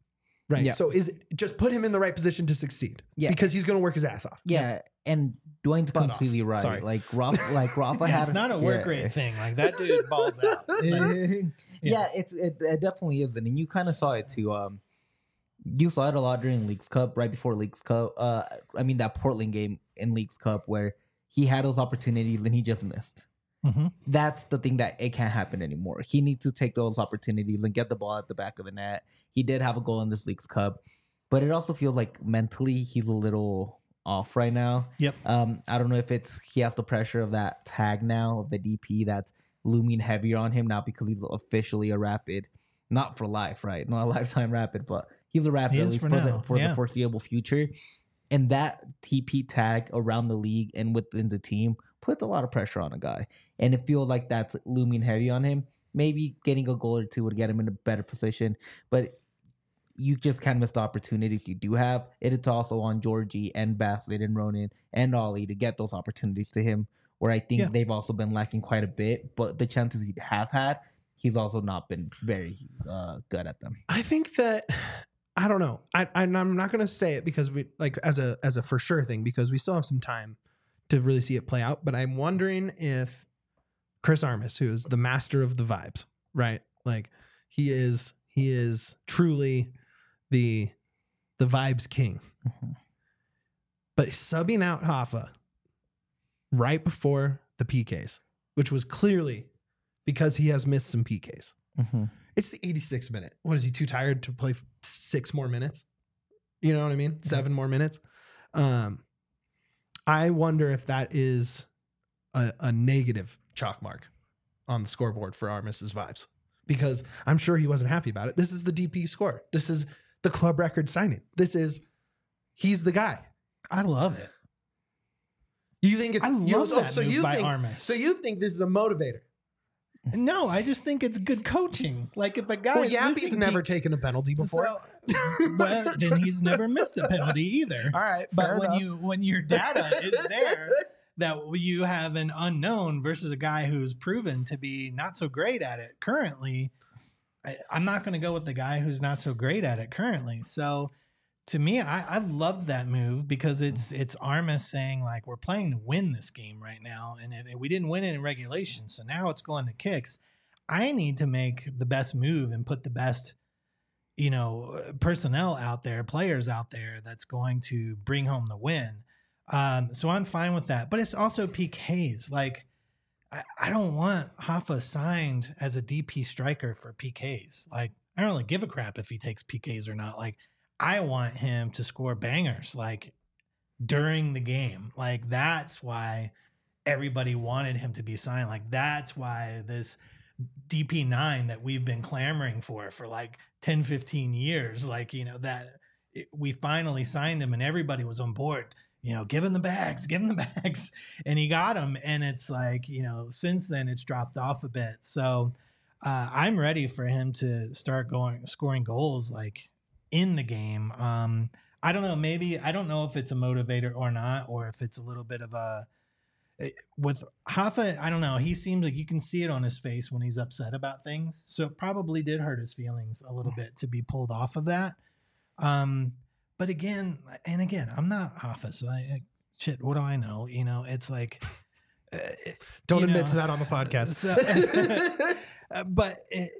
Right. Yeah. So is it just put him in the right position to succeed? Yeah. Because he's going to work his ass off. Yeah, and Dwayne's Butt completely off. right. Sorry. Like Rafa Yeah, had it's not a work rate thing. Like that dude balls out. Like, yeah, it definitely isn't, and you kind of saw it too. You saw it a lot during Leagues Cup, right before Leagues Cup. I mean that Portland game in Leagues Cup where he had those opportunities and he just missed. Mhm. That's the thing that it can't happen anymore. He needs to take those opportunities and get the ball at the back of the net. He did have a goal in this Leagues Cup, but it also feels like mentally he's a little off right now. Yep. I don't know if it's he has the pressure of that tag now of the DP that's looming heavier on him now because he's officially a Rapid, not for life, right? Not a lifetime Rapid, but he's a Rapid He at is least for for now, the yeah. foreseeable future. And that TP tag around the league and within the team puts a lot of pressure on a guy. And it feels like that's looming heavy on him. Maybe getting a goal or two would get him in a better position, but you just kind of miss the opportunities you do have. It's also on Georgie and Bassett and Ronan and Ollie to get those opportunities to him, where I think they've also been lacking quite a bit. But the chances he has had, he's also not been very good at them. I think that I don't know. I'm not going to say it because we like as a for sure thing because we still have some time to really see it play out. But I'm wondering if Chris Armas, who is the master of the vibes, right? Like he is truly the vibes king. Mm-hmm. But subbing out Hoffa right before the PKs, which was clearly because he has missed some PKs. Mm-hmm. It's the 86th minute. What is he too tired to play 6 more minutes? You know what I mean? 7 more minutes. I wonder if that is a negative chalk mark on the scoreboard for Armas's vibes because I'm sure he wasn't happy about it. This is the DP score. This is the club record signing. He's the guy. I love it. You think it's I love that move by think, Armas. So you think this is a motivator? No, I just think it's good coaching. Like if a guy Well, is Yappy's missing never taken a penalty before. well, then he's never missed a penalty either. All right, But fair enough. when your data is there that you have an unknown versus a guy who's proven to be not so great at it currently, I'm not going to go with the guy who's not so great at it currently. So to me, I loved that move because it's Armas saying like we're playing to win this game right now, and we didn't win it in regulation, so now it's going to kicks. I need to make the best move and put the best, personnel out there, players out there that's going to bring home the win. So I'm fine with that, but it's also PKs. Like I don't want Hoffa signed as a DP striker for PKs. Like I don't really give a crap if he takes PKs or not. Like I want him to score bangers like during the game. Like that's why everybody wanted him to be signed. Like that's why this DP9 that we've been clamoring for like 10, 15 years, like, we finally signed him and everybody was on board, give him the bags. And he got them. And it's like, since then it's dropped off a bit. So I'm ready for him to start scoring goals like in the game. I don't know. Maybe I don't know if it's a motivator or not, or if it's a little bit of with Hoffa. I don't know. He seems like you can see it on his face when he's upset about things. So it probably did hurt his feelings a little bit to be pulled off of that. But again, I'm not Hoffa, so shit. What do I know? It's like don't admit to that on the podcast. But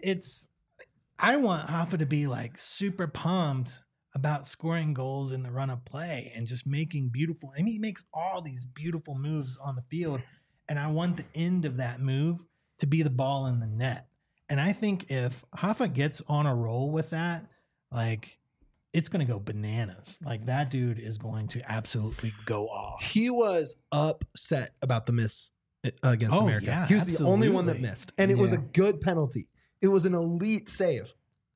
I want Hoffa to be like super pumped about scoring goals in the run of play and just making beautiful. I mean, he makes all these beautiful moves on the field, and I want the end of that move to be the ball in the net. And I think if Hoffa gets on a roll with that, like it's going to go bananas. Like that dude is going to absolutely go off. He was upset about the miss against America. Yeah, he was the only one that missed, and it was a good penalty. It was an elite save.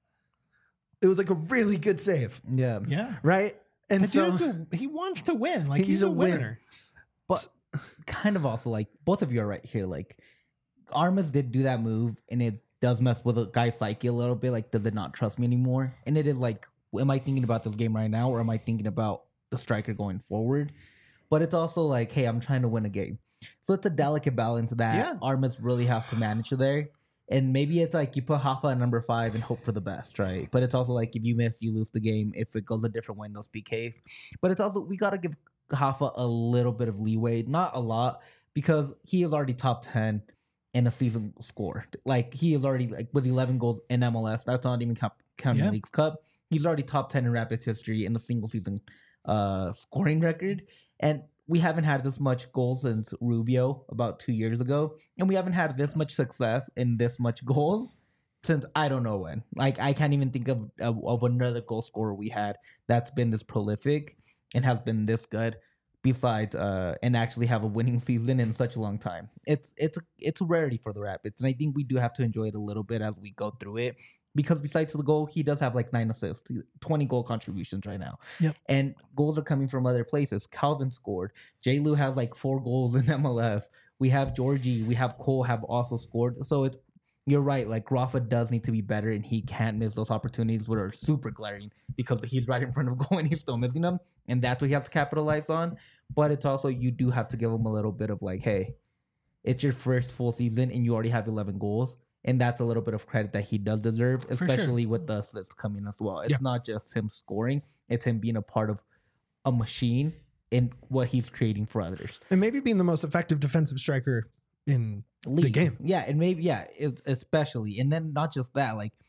It was like a really good save. Yeah. Yeah. Right? And But so he wants to win. Like he's a winner. But kind of also like both of you are right here. Like Armas did do that move and it does mess with a guy's psyche a little bit. Like, does it not trust me anymore? And it is like, am I thinking about this game right now or am I thinking about the striker going forward? But it's also like, hey, I'm trying to win a game. So it's a delicate balance that Armas really has to manage there. And maybe it's like you put Hoffa at number 5 and hope for the best, right? But it's also like if you miss, you lose the game. If it goes a different way in those PKs. But it's also, we got to give Hoffa a little bit of leeway. Not a lot, because he is already top 10 in a season score. Like, he is already, like, with 11 goals in MLS. That's not even counting Leagues Cup. He's already top 10 in Rapids history in the single season scoring record. And we haven't had this much goals since Rubio about 2 years ago. And we haven't had this much success in this much goals since I don't know when. Like, I can't even think of another goal scorer we had that's been this prolific and has been this good besides and actually have a winning season in such a long time. It's a rarity for the Rapids. And I think we do have to enjoy it a little bit as we go through it. Because besides the goal, he does have like 9 assists, 20 goal contributions right now. Yep. And goals are coming from other places. Calvin scored. J. Lou has like 4 goals in MLS. We have Georgie. We have Cole have also scored. So you're right. Like, Rafa does need to be better, and he can't miss those opportunities that are super glaring because he's right in front of goal and he's still missing them. And that's what he has to capitalize on. But it's also, you do have to give him a little bit of like, hey, it's your first full season and you already have 11 goals. And that's a little bit of credit that he does deserve, especially with the assists coming as well. It's not just him scoring. It's him being a part of a machine in what he's creating for others. And maybe being the most effective defensive striker in the game. Yeah, and maybe, especially. And then not just that, like,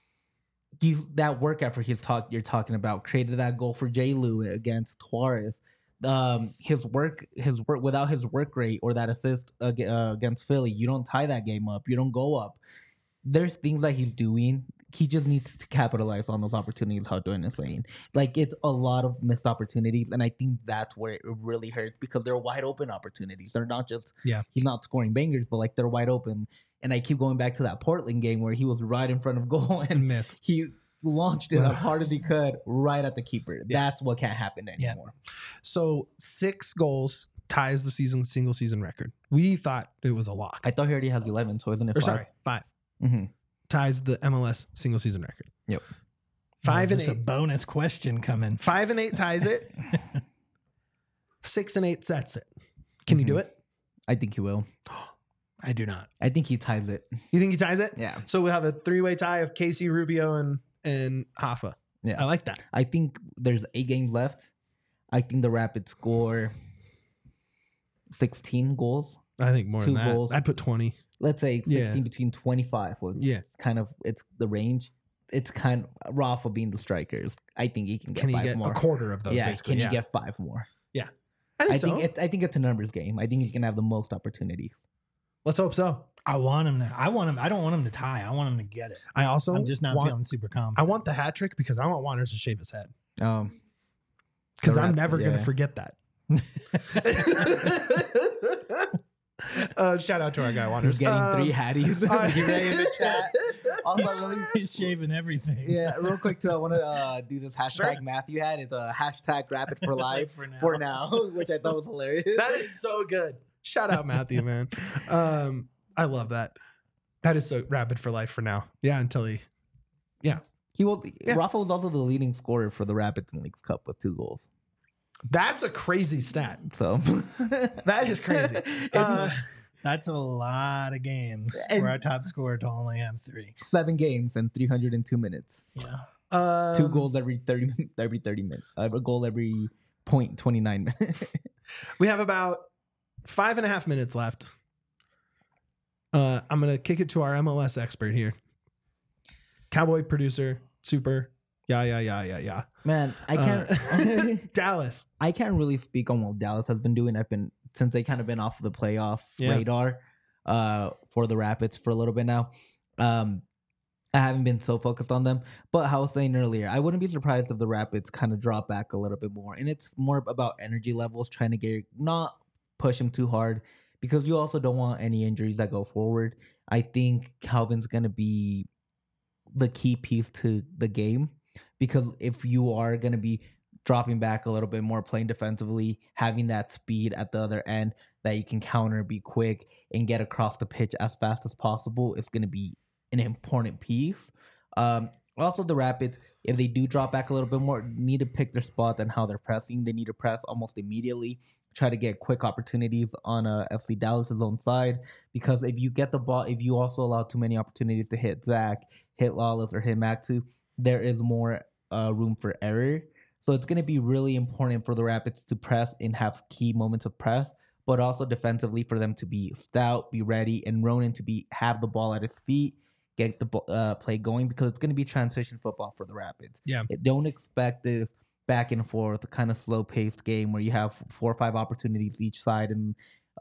that work effort you're talking about created that goal for J. Lou against Juarez. His work without his work rate or that assist against Philly, you don't tie that game up. You don't go up. There's things that he's doing. He just needs to capitalize on those opportunities, how Dwayne is saying. Like, it's a lot of missed opportunities, and I think that's where it really hurts because they're wide open opportunities. They're not just, he's not scoring bangers, but like they're wide open. And I keep going back to that Portland game where he was right in front of goal and missed. He launched it as hard as he could right at the keeper. That's what can't happen anymore. So 6 goals ties the single season record. We thought it was a lock. I thought he already has 11, so isn't it 5? Sorry, 5. Mm-hmm. Ties the MLS single season record. Yep. 5 and 8. A bonus question coming. 5 and 8 ties it. 6 and 8 sets it. Can he do it? I think he will. I do not. I think he ties it. You think he ties it? Yeah. So we'll have a 3-way tie of Casey, Rubio, and Hoffa. Yeah. I like that. I think there's 8 games left. I think the Rapids score 16 goals. I think more 2 than that. goals. I'd put 20. Let's say 16 between 25. It's the range. It's kind of Rafa being the strikers. I think he can get 5 more. Can he get a quarter of those? Yeah. Basically? Can he get 5 more? Yeah. I think it's a numbers game. I think he's gonna have the most opportunities. Let's hope so. I want him. I don't want him to tie. I want him to get it. I'm just not feeling super confident. I want the hat trick because I want Wanderers to shave his head. Because I'm never going to forget that. Shout out to our guy Wanderers. He's getting 3 hatties. In the chat. Also, he's shaving everything. Yeah, real quick too. I want to do this hashtag Matthew had. It's a hashtag Rapid for Life for now, which I thought was hilarious. That is so good. Shout out Matthew, man. I love that. That is so Rapid for Life for now. Yeah, until he will. Rafa was also the leading scorer for the Rapids in Leagues Cup with 2 goals. That's a crazy stat. So that is crazy. That's a lot of games for our top scorer to only have 3. 7 games and 302 minutes. Yeah. 2 goals every 30 minutes. A goal every 0.29 minutes. We have about 5.5 minutes left. I'm gonna kick it to our MLS expert here. Cowboy producer, super. Yeah. Man, I can't. Dallas. I can't really speak on what Dallas has been doing. Since they kind of been off the playoff radar for the Rapids for a little bit now. I haven't been so focused on them. But how I was saying earlier, I wouldn't be surprised if the Rapids kind of drop back a little bit more. And it's more about energy levels, trying to not push them too hard, because you also don't want any injuries that go forward. I think Calvin's going to be the key piece to the game, because if you are going to be dropping back a little bit more, playing defensively, having that speed at the other end that you can counter, be quick, and get across the pitch as fast as possible, it's going to be an important piece. Also, the Rapids, if they do drop back a little bit more, need to pick their spot and how they're pressing. They need to press almost immediately, try to get quick opportunities on FC Dallas's own side. Because if you get the ball, if you also allow too many opportunities to hit Zach, hit Lawless, or hit Maxu, there is more room for error. So it's going to be really important for the Rapids to press and have key moments of press, but also defensively for them to be stout, be ready, and Ronan to have the ball at his feet, get the play going, because it's going to be transition football for the Rapids. Yeah. Don't expect this back and forth kind of slow-paced game where you have 4 or 5 opportunities each side and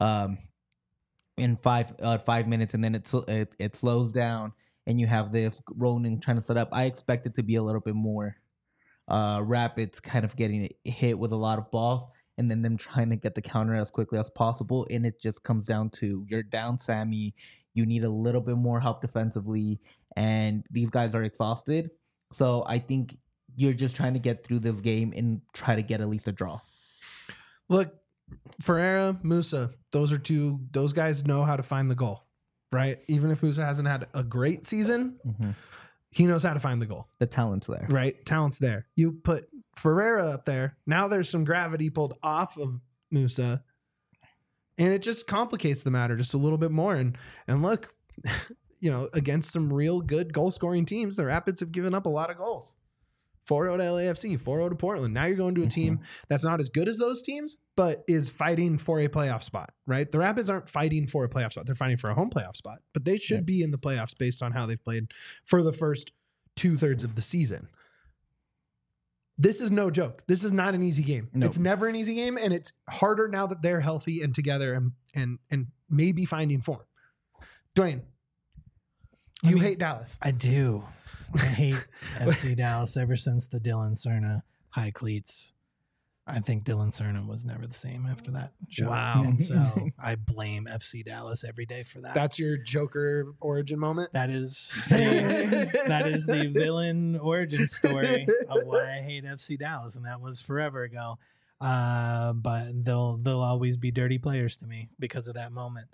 in 5 minutes, and then it slows down and you have this Ronan trying to set up. I expect it to be a little bit more Rapids kind of getting hit with a lot of balls and then them trying to get the counter as quickly as possible. And it just comes down to you're down Sammy. You need a little bit more help defensively, and these guys are exhausted. So I think you're just trying to get through this game and try to get at least a draw. Look, Ferreira, Musa, those guys know how to find the goal, right? Even if Musa hasn't had a great season, he knows how to find the goal. The talent's there. Right? Talent's there. You put Ferreira up there. Now there's some gravity pulled off of Musa, and it just complicates the matter just a little bit more. And look, against some real good goal-scoring teams, the Rapids have given up a lot of goals. 4-0 to LAFC, 4-0 to Portland. Now you're going to a team that's not as good as those teams, but is fighting for a playoff spot, right? The Rapids aren't fighting for a playoff spot. They're fighting for a home playoff spot, but they should be in the playoffs based on how they've played for the first 2/3 of the season. This is no joke. This is not an easy game. Nope. It's never an easy game, and it's harder now that they're healthy and together and maybe finding form. Dwayne, you hate Dallas. I do. I hate FC Dallas ever since the Dylan Cerna high cleats. I think Dylan Cerna was never the same after that show. Wow. And so I blame FC Dallas every day for that. That's your Joker origin moment? That is the villain origin story of why I hate FC Dallas, and that was forever ago. But they'll always be dirty players to me because of that moment.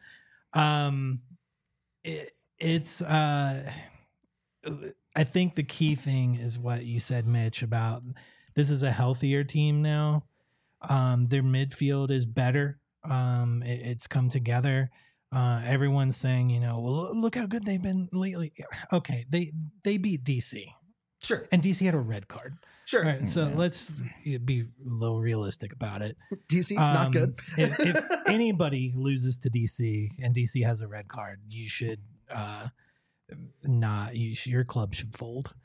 I think the key thing is what you said, Mitch, about this is a healthier team now. Their midfield is better. It's come together. Everyone's saying, well, look how good they've been lately. Okay, they beat DC. Sure. And DC had a red card. Sure. Right, so let's be a little realistic about it. DC, not good. if anybody loses to DC and DC has a red card, you should your club should fold.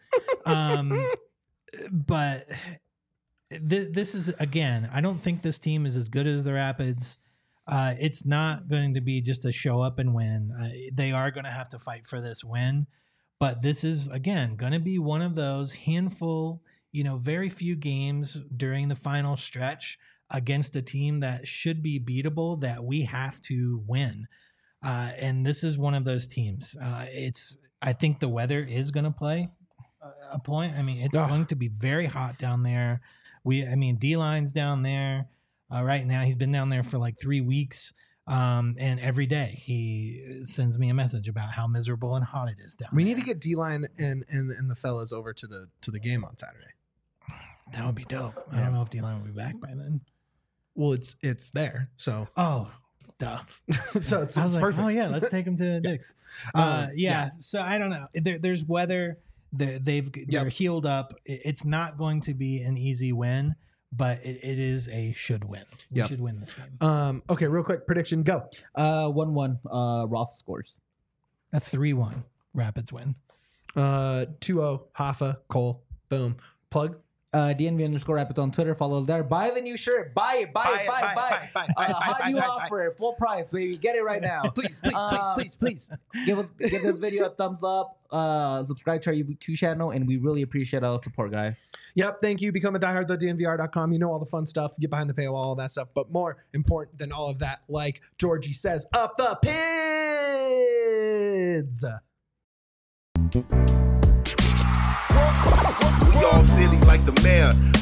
But this is, again, I don't think this team is as good as the Rapids. It's not going to be just a show up and win. They are going to have to fight for this win. But this is, again, going to be one of those handful, very few games during the final stretch against a team that should be beatable that we have to win. And this is one of those teams. I think the weather is going to play a point. I mean, it's going to be very hot down there. D-Line's down there right now. He's been down there for like 3 weeks. And every day he sends me a message about how miserable and hot it is down there. We need to get D-Line and the fellas over to the game on Saturday. That would be dope. I don't know if D-Line will be back by then. Well, it's there. So. Oh, duh. So it's like, perfect. Oh yeah, let's take them to Dick's. So I don't know. There's weather. They're healed up. It's not going to be an easy win, but it is a should win. We should win this game. Okay, real quick prediction. Go. 1-1. Roth scores. A 3-1 Rapids win. 2-0 Hoffa Cole. Boom. Plug. DNV_Rapids on Twitter. Follow us there. Buy the new shirt. Buy it. Hot new offer. Full price, baby. Get it right now. Please. Give this video a thumbs up. Subscribe to our YouTube channel, and we really appreciate all the support, guys. Yep. Thank you. Become a diehard.dnvr.com. You know all the fun stuff. Get behind the paywall, all that stuff. But more important than all of that, like Georgie says, up the pids. We all silly like the mayor.